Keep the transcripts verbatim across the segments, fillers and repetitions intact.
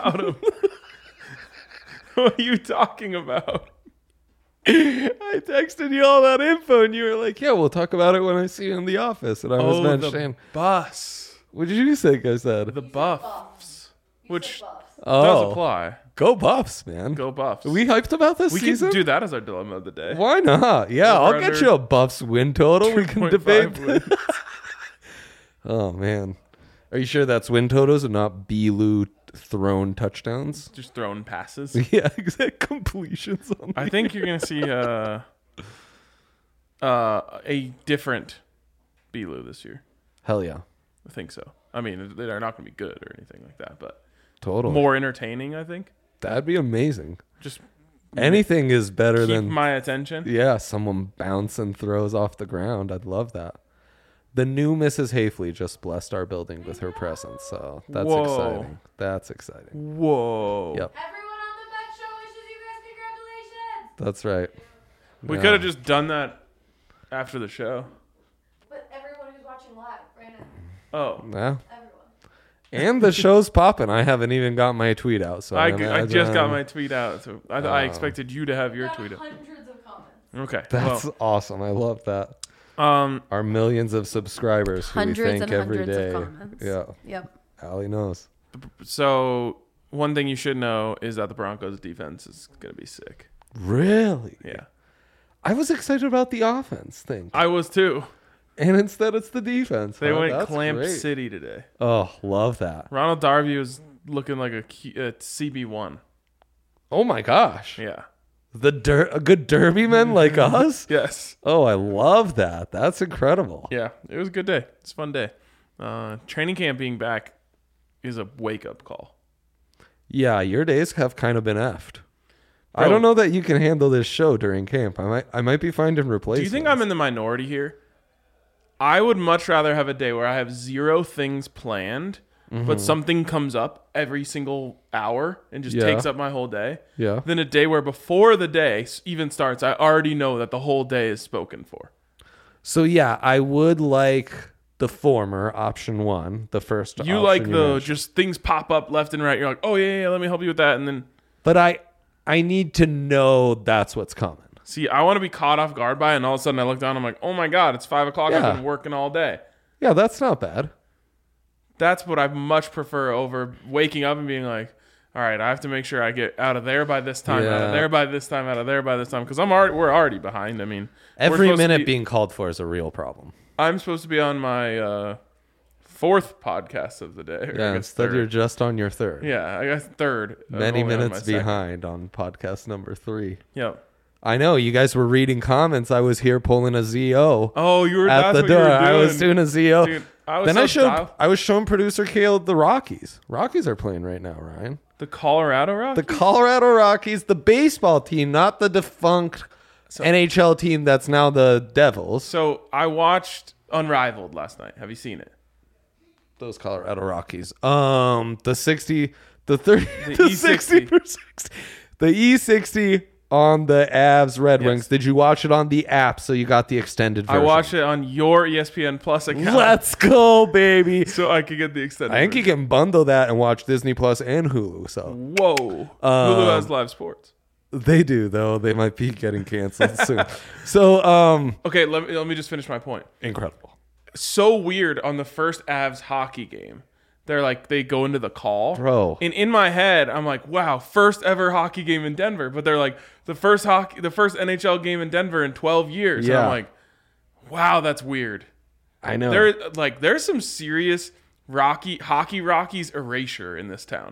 about him. What are you talking about? I texted you all that info, and you were like, "Yeah, we'll talk about it when I see you in the office." And I was Oh, mentioning, the bus. what did you think I said? The Buffs. Which Oh, does apply. Go Buffs, man. Go Buffs. Are we hyped about this we season? can do that as our dilemma of the day. Why not? Yeah, Over I'll get under you a Buffs win total. We can debate. two point five Oh, man. Are you sure that's win totals and not B-Lou thrown touchdowns? Just throwing passes. Yeah, exact completions. On I think you're going to see uh, uh, a different B-Lou this year. Hell yeah. I think so. I mean, they're not going to be good or anything like that, but Totally. more entertaining, I think. That'd be amazing. Just Anything is better keep than my attention. yeah, someone bouncing throws off the ground. I'd love that. The new Missus Hafley just blessed our building with her presence, so that's Whoa. exciting. That's exciting. Whoa. Yep, Everyone on the Bet Show wishes you guys congratulations. that's right. We Yeah. could have just done that after the show. But everyone who's watching live right now, Oh. Yeah. everyone. And the show's popping. I haven't even got my tweet out, so I, I, I imagine- just got my tweet out. So I, I Oh. expected you to have your Got tweet out. hundreds of comments. Okay. That's well, awesome. I love that. um, Our millions of subscribers who Hundreds we thank and every hundreds day. of comments. Yeah, Yep. Allie knows. so one thing you should know is that the Broncos defense is going to be sick. Really? Yeah. I was excited about the offense thing, I was too. and instead it's the defense. They huh? went That's Clamp great. City today. Oh, love that. Ronald Darby was looking like a, key- a C B one. Oh my gosh. Yeah. The der- a good derby men like us? Yes. Oh, I love that. That's incredible. Yeah. It was a good day. It's a fun day. Uh, training camp being back is a wake up call. Yeah, your days have kind of been effed. I Bro. don't know that you can handle this show during camp. I might I might be finding Do replacements. you think I'm in the minority here? I would much rather have a day where I have zero things planned, Mm-hmm. but something comes up every single hour and just Yeah. takes up my whole day, Yeah. than a day where before the day s- even starts, I already know that the whole day is spoken for. So yeah, I would like the former option one, the first You option like the mentioned. just things pop up left and right. You're like, oh yeah, yeah, let me help you with that, and then But I I need to know that's what's coming. see, I want to be caught off guard by it, and all of a sudden I look down, I'm like, oh my god, it's five o'clock. Yeah. I've been working all day. Yeah, that's not bad. That's what I much prefer over waking up and being like, all right, I have to make sure I get out of there by this time, out Yeah. of there by this time, out of there by this time, because I'm already we're already behind. I mean, we're Every supposed to minute be- being called for is a real problem. I'm supposed to be on my uh, fourth podcast of the day. or I Yeah, guess instead third. you're just on your third. yeah, I guess third. I'm Many only on minutes my second. behind on podcast number three. Yep. I know you guys were reading comments. I was here pulling a Z O Oh, you were at that's the what door. You were I was doing. doing a Z O. Dude, I was then so I showed dialed- I was showing producer Caleb the Rockies. Rockies are playing right now, Ryan. the Colorado Rockies. The Colorado Rockies, the baseball team, not the defunct N H L team that's now the Devils. So I watched Unrivaled last night. Have you seen it? Those Colorado Rockies. Um, the sixty, the thirty, The the, E sixty sixty. per sixty, the E sixty on the Avs Red Yes. Wings. Did you watch it on the app? So you got the extended I version. watched it on your E S P N Plus account, Let's go, baby. so I could get the extended. I think you version. can bundle that and watch Disney Plus and Hulu. So Whoa. Um, Hulu has live sports. they do, though. They might be getting canceled soon. So, um, Okay, let me let me just finish my point. incredible. So weird on the first Avs hockey game. They're like they go into the call. Bro. And in my head, I'm like, wow, first ever hockey game in Denver. But they're like the first hockey the first N H L game in Denver in twelve years. And Yeah. I'm like, wow, that's weird. I know. There like there's some serious Rocky hockey Rockies erasure in this town.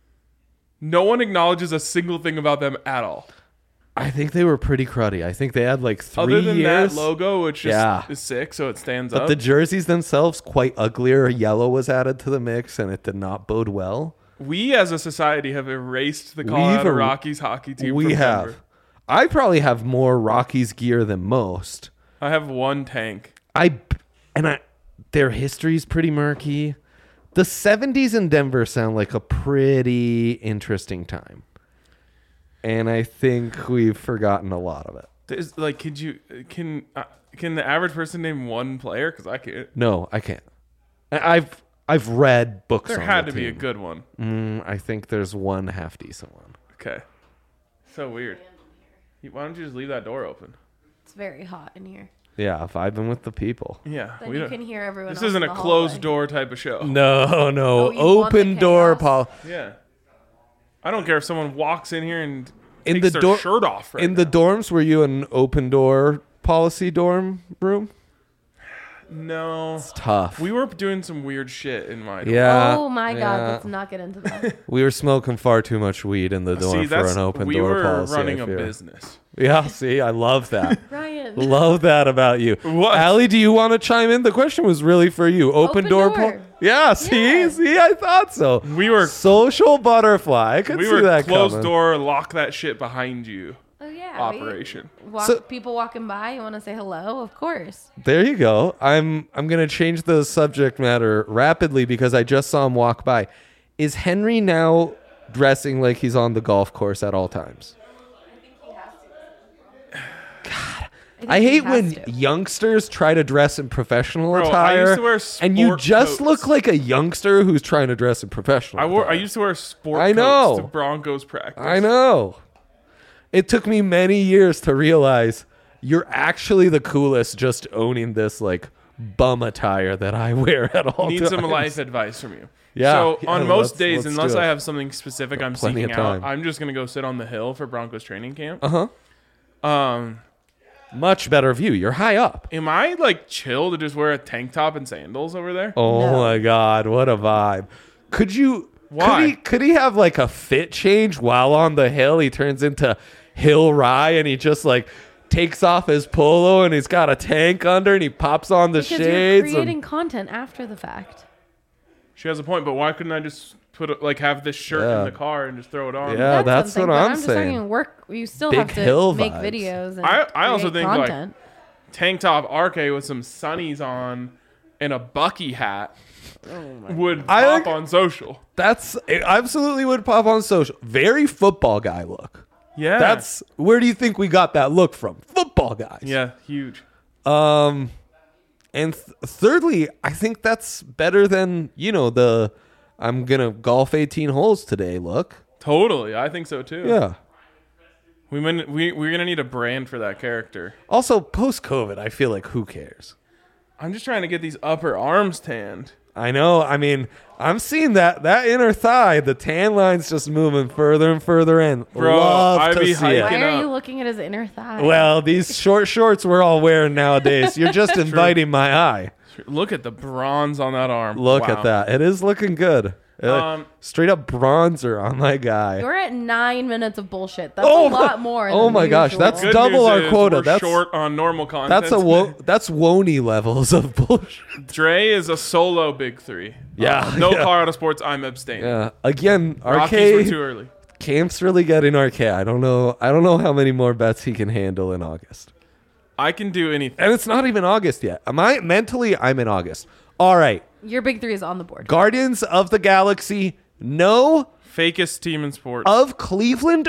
No one acknowledges a single thing about them at all. I think they were pretty cruddy. I think they had like three Other than years. that logo, which just Yeah. is sick, so it stands But up. the jerseys themselves, quite uglier. Yellow was added to the mix, and it did not bode well. We as a society have erased the Colorado er- Rockies hockey team. We from have. Denver. I probably have more Rockies gear than most. I have one tank. I and I, their history's pretty murky. The seventies in Denver sound like a pretty interesting time, and I think we've forgotten a lot of it. There's, like, could you can uh, can the average person name one player? Because I can't. No, I can't. I- I've I've read books. There on had the to be a team. good one. Mm, I think there's one half decent one. Okay. So weird. Why don't you just leave that door open? It's very hot in here. Yeah, vibing with the people. Yeah. Then we you don't- can hear everyone. This else isn't in a the closed hallway. door type of show. No, no, Oh, you want the open door chaos? pol. Yeah. I don't care if someone walks in here and In takes the their door- shirt off. Right In the now. dorms, were you an open door policy dorm room? No. It's tough. We were doing some weird shit in my dorm. yeah. Oh my god, yeah. let's not get into that. We were smoking far too much weed in the dorm See, for that's an open we door were policy. running I a fear. business. Yeah, see, I love that. Ryan. Love that about you. What? Allie, do you want to chime in? The question was really for you. Open, Open door. door. pol- yeah, see, Yeah. see, I thought so. We were Social butterfly. I could we see were that closed coming. door, lock that shit behind you. Oh yeah. Operation. We walk, So- people walking by. You want to say hello? Of course. There you go. I'm I'm gonna change the subject matter rapidly because I just saw him walk by. Is Henry now dressing like he's on the golf course at all times? think I he hate has when to. youngsters try to dress in professional Bro, I attire, used to wear and you sport just coats. look like a youngster who's trying to dress in professional. I wore. I attire. used to wear sport I know. coats to Broncos practice. I know. It took me many years to realize you're actually the coolest just owning this like bum attire that I wear at all Need times. some life advice from you. Yeah, So yeah, on most let's- days, let's unless do I it. have something specific I'm plenty seeking of out, time. I'm just gonna go sit on the hill for Broncos training camp. Uh-huh. Um, Much better view. You're high up. am I like chill to just wear a tank top and sandals over there? Oh No. my god, what a vibe. Could you Why? Could he, could he have like a fit change while on the hill? He turns into Hill Rye and he just like takes off his polo and he's got a tank under and he pops on the Because shades. you're and- creating content after the fact. She has a point, but why couldn't I just put a, like have this shirt Yeah. in the car and just throw it on? Yeah. that's something, what but I'm just saying. talking work. You still Big have to hill make vibes. videos. And I- I also create think, like, content. Tank top R K with some sunnies on and a Bucky hat would I pop like- on social. That's it absolutely would pop on social. Very football guy look. Yeah, That's where do you think we got that look from? Football guys. yeah, huge. Um, and th- thirdly, I think that's better than you know the I'm gonna golf eighteen holes today look. Totally, I think so too. Yeah. we min- we we're gonna need a brand for that character. Also, post COVID, I feel like who cares? I'm just trying to get these upper arms tanned. I know. I mean, I'm seeing that that inner thigh, the tan line's just moving further and further in. Bro, Love I to be see hiking it. Why Picking are up. you looking at his inner thigh? Well, these short shorts we're all wearing nowadays, you're just inviting my eye. Look at the bronze on that arm. Look Wow. at that. It is looking good. Uh, Um, Straight up bronzer on my guy. You're at nine minutes of bullshit. That's Oh a my- lot more. oh than my gosh, usual. that's Good double news our is quota. We're That's- short on normal content. That's a wo- that's Woney levels of bullshit. Dre is a solo big three. Yeah, Uh, no yeah. Colorado sports. I'm abstaining. Yeah. Again, Rockies were R K too early. Camp's really getting R K. I don't know. I don't know how many more bets he can handle in August. I can do anything. And it's not even August yet. Am I mentally? I'm in August. All right. Your big three is on the board. Guardians of the Galaxy. No Fakest team in sports. of Cleveland,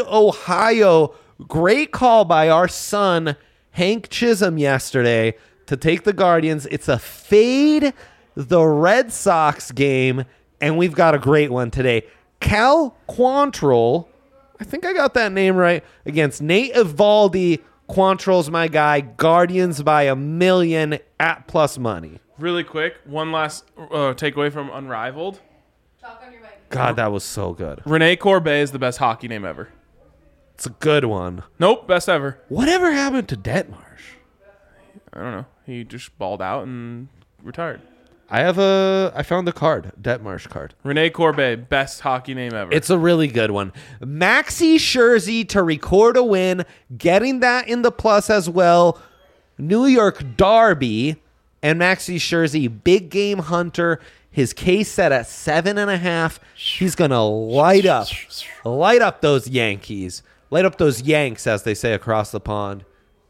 Ohio. Great call by our son, Hank Chisholm, yesterday to take the Guardians. It's a fade the Red Sox game, and we've got a great one today. Cal Quantrill, I think I got that name right, against Nate Evaldi. Quantrill's my guy. Guardians by a million at plus money. Really quick, one last uh, takeaway from Unrivaled. Talk on your mic. God, that was so good. Rene Corbet is the best hockey name ever. It's a good one. Nope, best ever. Whatever happened to Detmarsh? I don't know. He just balled out and retired. I have a. I found the card, Detmarsh card. Rene Corbet, best hockey name ever. It's a really good one. Maxi Scherzer to record a win, getting that in the plus as well. New York Derby and Maxi Scherzer, big game hunter. His case set at seven and a half. He's gonna light up, light up those Yankees, light up those Yanks, as they say across the pond.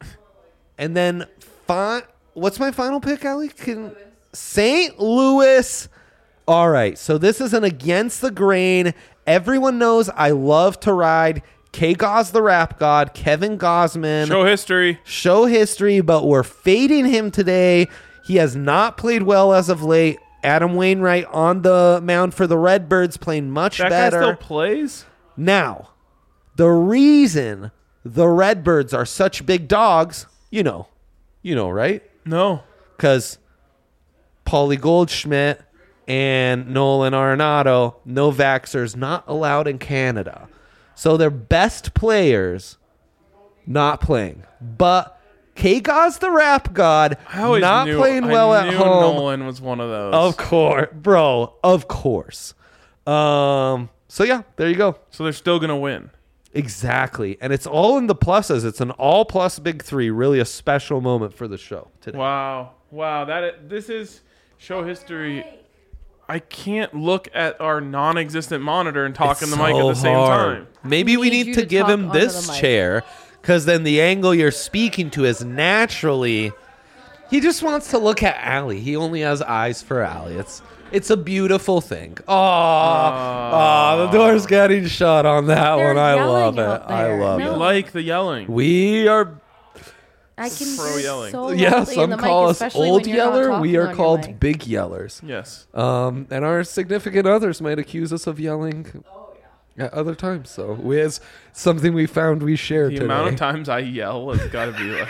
And then, fi- what's my final pick, Allie? Can Saint Louis. All right, so this is an against the grain. Everyone knows I love to ride K. Gauze the Rap God, Kevin Gosman. Show history. Show history, but we're fading him today. He has not played well as of late. Adam Wainwright on the mound for the Redbirds playing much That better. guy still plays? Now, the reason the Redbirds are such big dogs, you know, you know, right? No. Because Paulie Goldschmidt and Nolan Arenado, no vaxxers, not allowed in Canada. So their best players not playing. But K-Gaz the rap god I always not knew, playing I well at knew home. Nolan was one of those. Of course, bro. Of course. Um. So yeah, there you go. So they're still gonna win. Exactly, and it's all in the pluses. It's an all plus big three. Really a special moment for the show today. Wow, wow. That is, this is show history. I can't look at our non-existent monitor and talk It's in the mic at so the same hard. time. Maybe we Need need you to to give talk him onto this the mic. chair, because then the angle you're speaking to is naturally. He just wants to look at Allie. He only has eyes for Allie. It's it's a beautiful thing. Oh, oh, the door's getting shut on that They're one. I yelling love it. out I there. love You No. it. like the yelling. We are. I can Pro hear yelling. so Yeah, loudly in some the call mic, us especially old when you're not yeller. talking We on are your called mic. big yellers. Yes. Um, and our significant others might accuse us of yelling at other times. So we, it's something we found we share The today. amount of times I yell has got to be like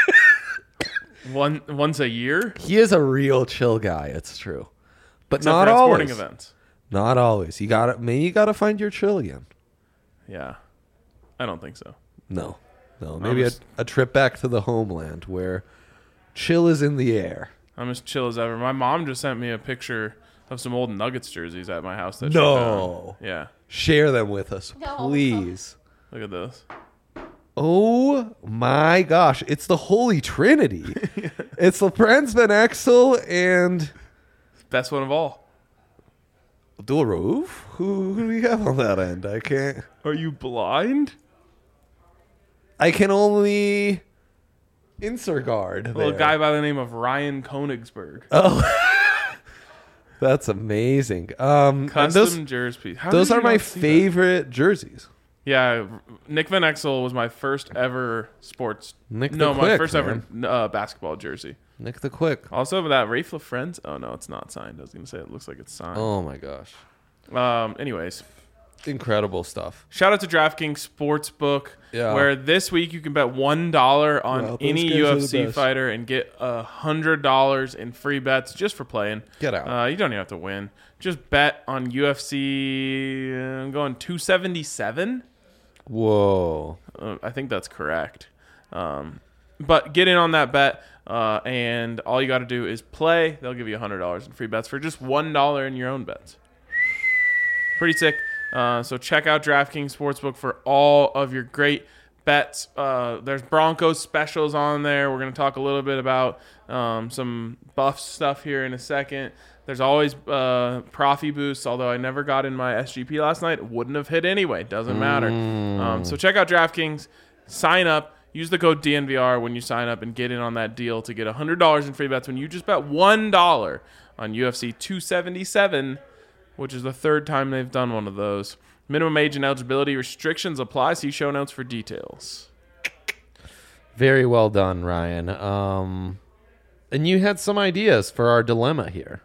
one once a year. He is a real chill guy. It's true, but Except not for at always. sporting events. Not always. You got to Maybe you got to find your chill again. Yeah, I don't think so. No, no. Maybe a, just- a trip back to the homeland where chill is in the air. I'm as chill as ever. My mom just sent me a picture of some old Nuggets jerseys at my house. That she No. found. Yeah, Share them with us, No. please. look at those. Oh my gosh, it's the Holy Trinity. It's LeBron's Ben Exel and Best one of all. Abdul Rauf. Who, who do we have on that end? I can't. Are you blind? I can only insert guard. A little there. guy by the name of Ryan Konigsberg. Oh, that's amazing. Um, and Custom those jerseys. How those did are you my not see that? favorite jerseys. Yeah, Nick Van Exel was my first ever sports. Nick the no, my Quick, first ever man. uh, basketball jersey. Nick the Quick. Also, that Rafe LaFrentz. Oh no, it's not signed. I was gonna say it looks like it's signed. Oh my gosh, Um. Anyways, incredible stuff. shout out to DraftKings Sportsbook, Yeah. where this week you can bet one dollar on Wow, those any guys are U the F C best. fighter and get a hundred dollars in free bets just for playing. Get out. Uh, you don't even have to win. Just bet on U F C. uh, I'm going two seventy-seven. Whoa. Uh, I think that's correct. Um, but get in on that bet, uh, and all you got to do is play. They'll give you one hundred dollars in free bets for just one dollar in your own bets. Pretty sick. Uh, so check out DraftKings Sportsbook for all of your great bets. Uh, there's Broncos specials on there. We're going to talk a little bit about um, some buff stuff here in a second. There's always uh, Profi boosts, although I never got in my S G P last night. It wouldn't have hit anyway. Doesn't matter. Um, so check out DraftKings. Sign up. Use the code D N V R when you sign up and get in on that deal to get one hundred dollars in free bets when you just bet one dollar on U F C two seventy-seven, which is the third time they've done one of those. Minimum age and eligibility restrictions apply. See show notes for details. Very well done, Ryan. Um, and you had some ideas for our dilemma here.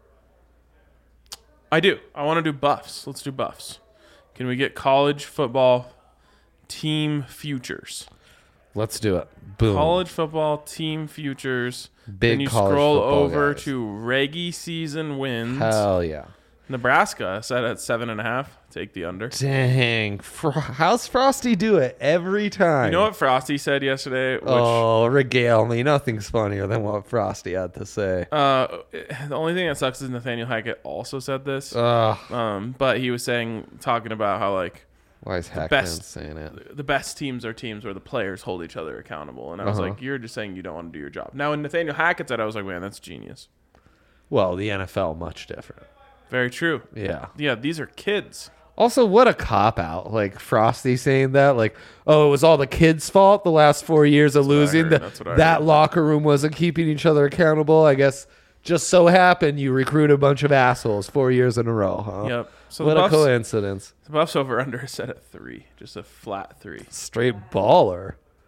I do. I want to do buffs. Let's do buffs. Can we get college football team futures? Let's do it. Boom. College football team futures. Big Then you college scroll football over guys. to reggie season wins. Hell yeah. Nebraska set at seven and a half. Take the under. Dang. Fro- How's Frosty do it every time? You know what Frosty said yesterday? Which, Oh, regale me. Nothing's funnier than what Frosty had to say. uh, the only thing that sucks is Nathaniel Hackett also said this. Ugh. Um, but he was saying, talking about how like Why is Hackman best- saying it? the best teams are teams where the players hold each other accountable. And I was Uh-huh. like, you're just saying you don't want to do your job. Now, when Nathaniel Hackett said, I was like, man, that's genius. Well, the N F L much different. Very true. Yeah. Yeah, these are kids. Also, what a cop out. Like Frosty saying that, like, oh, it was all the kids' fault the last four years of what I losing. heard. The- That's what I that heard. locker room wasn't keeping each other accountable. I guess just so happened you recruit a bunch of assholes four years in a row, huh? Yep. So what the a Buffs, coincidence. the Buffs over under is set at three, just a flat three. Straight baller.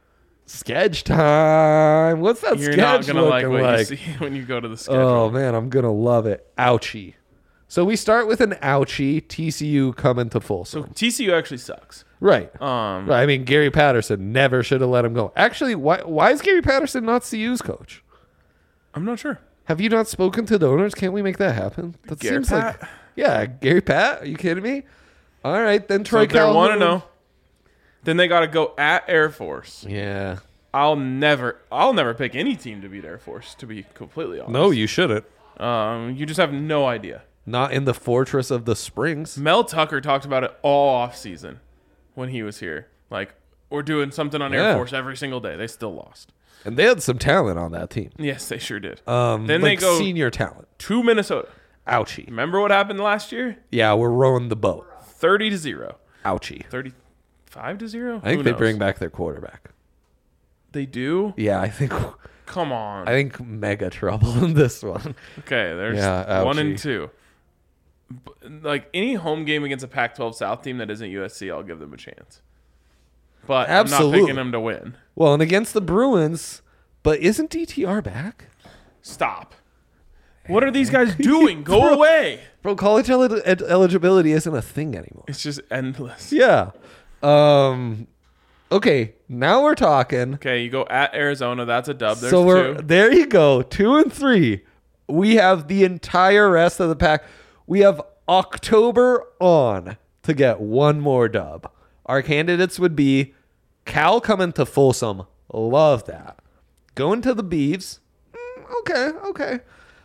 Sketch time. What's that You're sketch not gonna like looking what like? you see when you go to the schedule. Oh man, I'm gonna love it. Ouchie. So we start with an ouchie. T C U coming to So Folsom. T C U actually sucks. Right. Um, Right. I mean, Gary Patterson never should have let him go. Actually, why why is Gary Patterson not C U's coach? I'm not sure. Have you not spoken to the owners? Can't we make that happen? That Gary seems Pat? like yeah, Gary Pat. Are you kidding me? All right, then So Troy if they're Calhoun. one to know, then they got to go at Air Force. Yeah. I'll never, I'll never pick any team to beat Air Force. To be completely honest. No, you shouldn't. Um, you just have no idea. Not in the fortress of the springs. Mel Tucker talked about it all off season when he was here. Like, we're doing something on Yeah. Air Force every single day. They still lost. And they had some talent on that team. Yes, they sure did. Um, Then like they go senior talent. to Minnesota. Ouchie. Remember what happened last year? Yeah, we're rowing the boat. Thirty to zero. Ouchie. Thirty-five to zero. I think Who they knows? bring back their quarterback. They do. Yeah, I think Come on. I think mega trouble in this one. Okay, there's Yeah, one and ouchie. two. B- Like any home game against a Pac twelve South team that isn't U S C, I'll give them a chance. But I'm not Absolutely. picking them to win. Well, and against the Bruins, but isn't D T R back? Stop. What are these guys doing? Go away. Bro, college el- ed- eligibility isn't a thing anymore. It's just endless. Yeah. Um. Okay, now we're talking. Okay, you go at Arizona. That's a dub. There's so we're two. there. You go, two and three. We have the entire rest of the pack. We have October on to get one more dub. Our candidates would be Cal coming to Folsom. Love that. Going to the Beavs. Mm, okay, okay.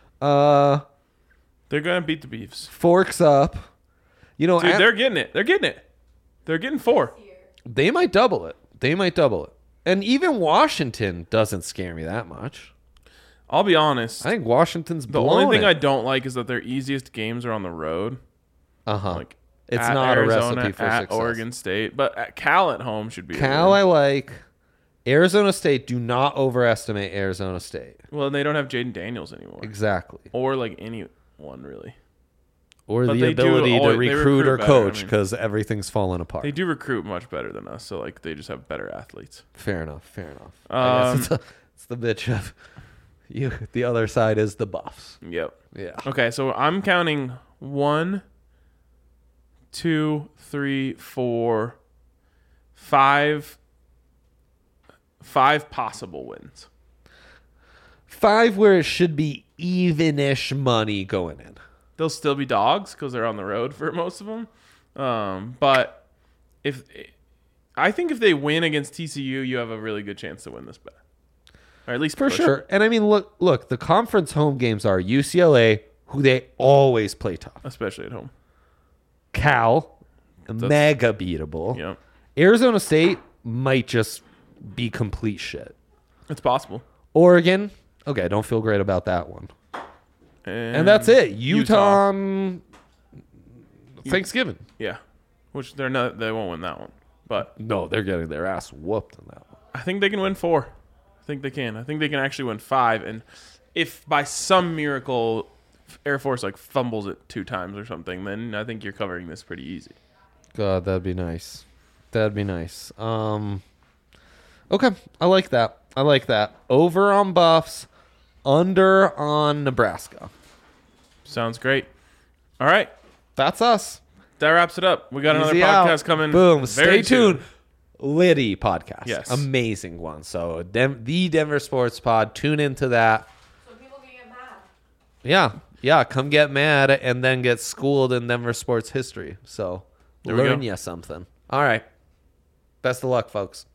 Uh, They're gonna beat the Beefs. Forks up. You know, Dude, at- they're getting it. They're getting it. They're getting four. they might double it. They might double it. And even Washington doesn't scare me that much. I'll be honest. I think Washington's The blowing only thing it. I don't like is that their easiest games are on the road. uh-huh. Like It's at not a Arizona, recipe for at success. Oregon State, but at Cal at home should be. a Cal, win. I like. Arizona State, do not overestimate Arizona State. Well, they don't have Jaden Daniels anymore, Exactly. or like anyone really. Or But the they do ability always- to they recruit, recruit or better, I coach mean. because everything's falling apart. They do recruit much better than us, so like they just have better athletes. Fair enough. Fair enough. I Um, guess it's, a, it's the bitch of you. The other side is the Buffs. Yep. Yeah. Okay, so I'm counting one, two, three, four, five, five possible wins. Five where it should be even-ish money going in. They'll still be dogs because they're on the road for most of them. Um, but if I think if they win against T C U, you have a really good chance to win this bet, or at least For push sure. it, And I mean, look, look, the conference home games are U C L A, who they always play tough. especially at home. Cal, mega beatable. Yep, Arizona State might just be complete shit. it's possible. Oregon, okay, don't feel great about that one. And, And that's it. Utah, Utah. on Thanksgiving. Yeah, which they're not. They won't win that one, but No, they're getting their ass whooped on that one. I think they can win four. I think they can. I think they can actually win five. And if by some miracle Air Force like fumbles it two times or something, then I think you're covering this pretty easy. God, that'd be nice. That'd be nice. Um, okay, I like that. I like that. Over on Buffs, under on Nebraska. Sounds great. All right, That's us. that wraps it up. We got another Easy podcast out. coming. Boom. very Stay tuned. soon. Liddy podcast. Yes. Amazing one. So Dem- the Denver Sports Pod. Tune into that. So people can get mad. Yeah. Yeah. Come get mad and then get schooled in Denver sports history. So There we learn go. you something. All right. Best of luck, folks.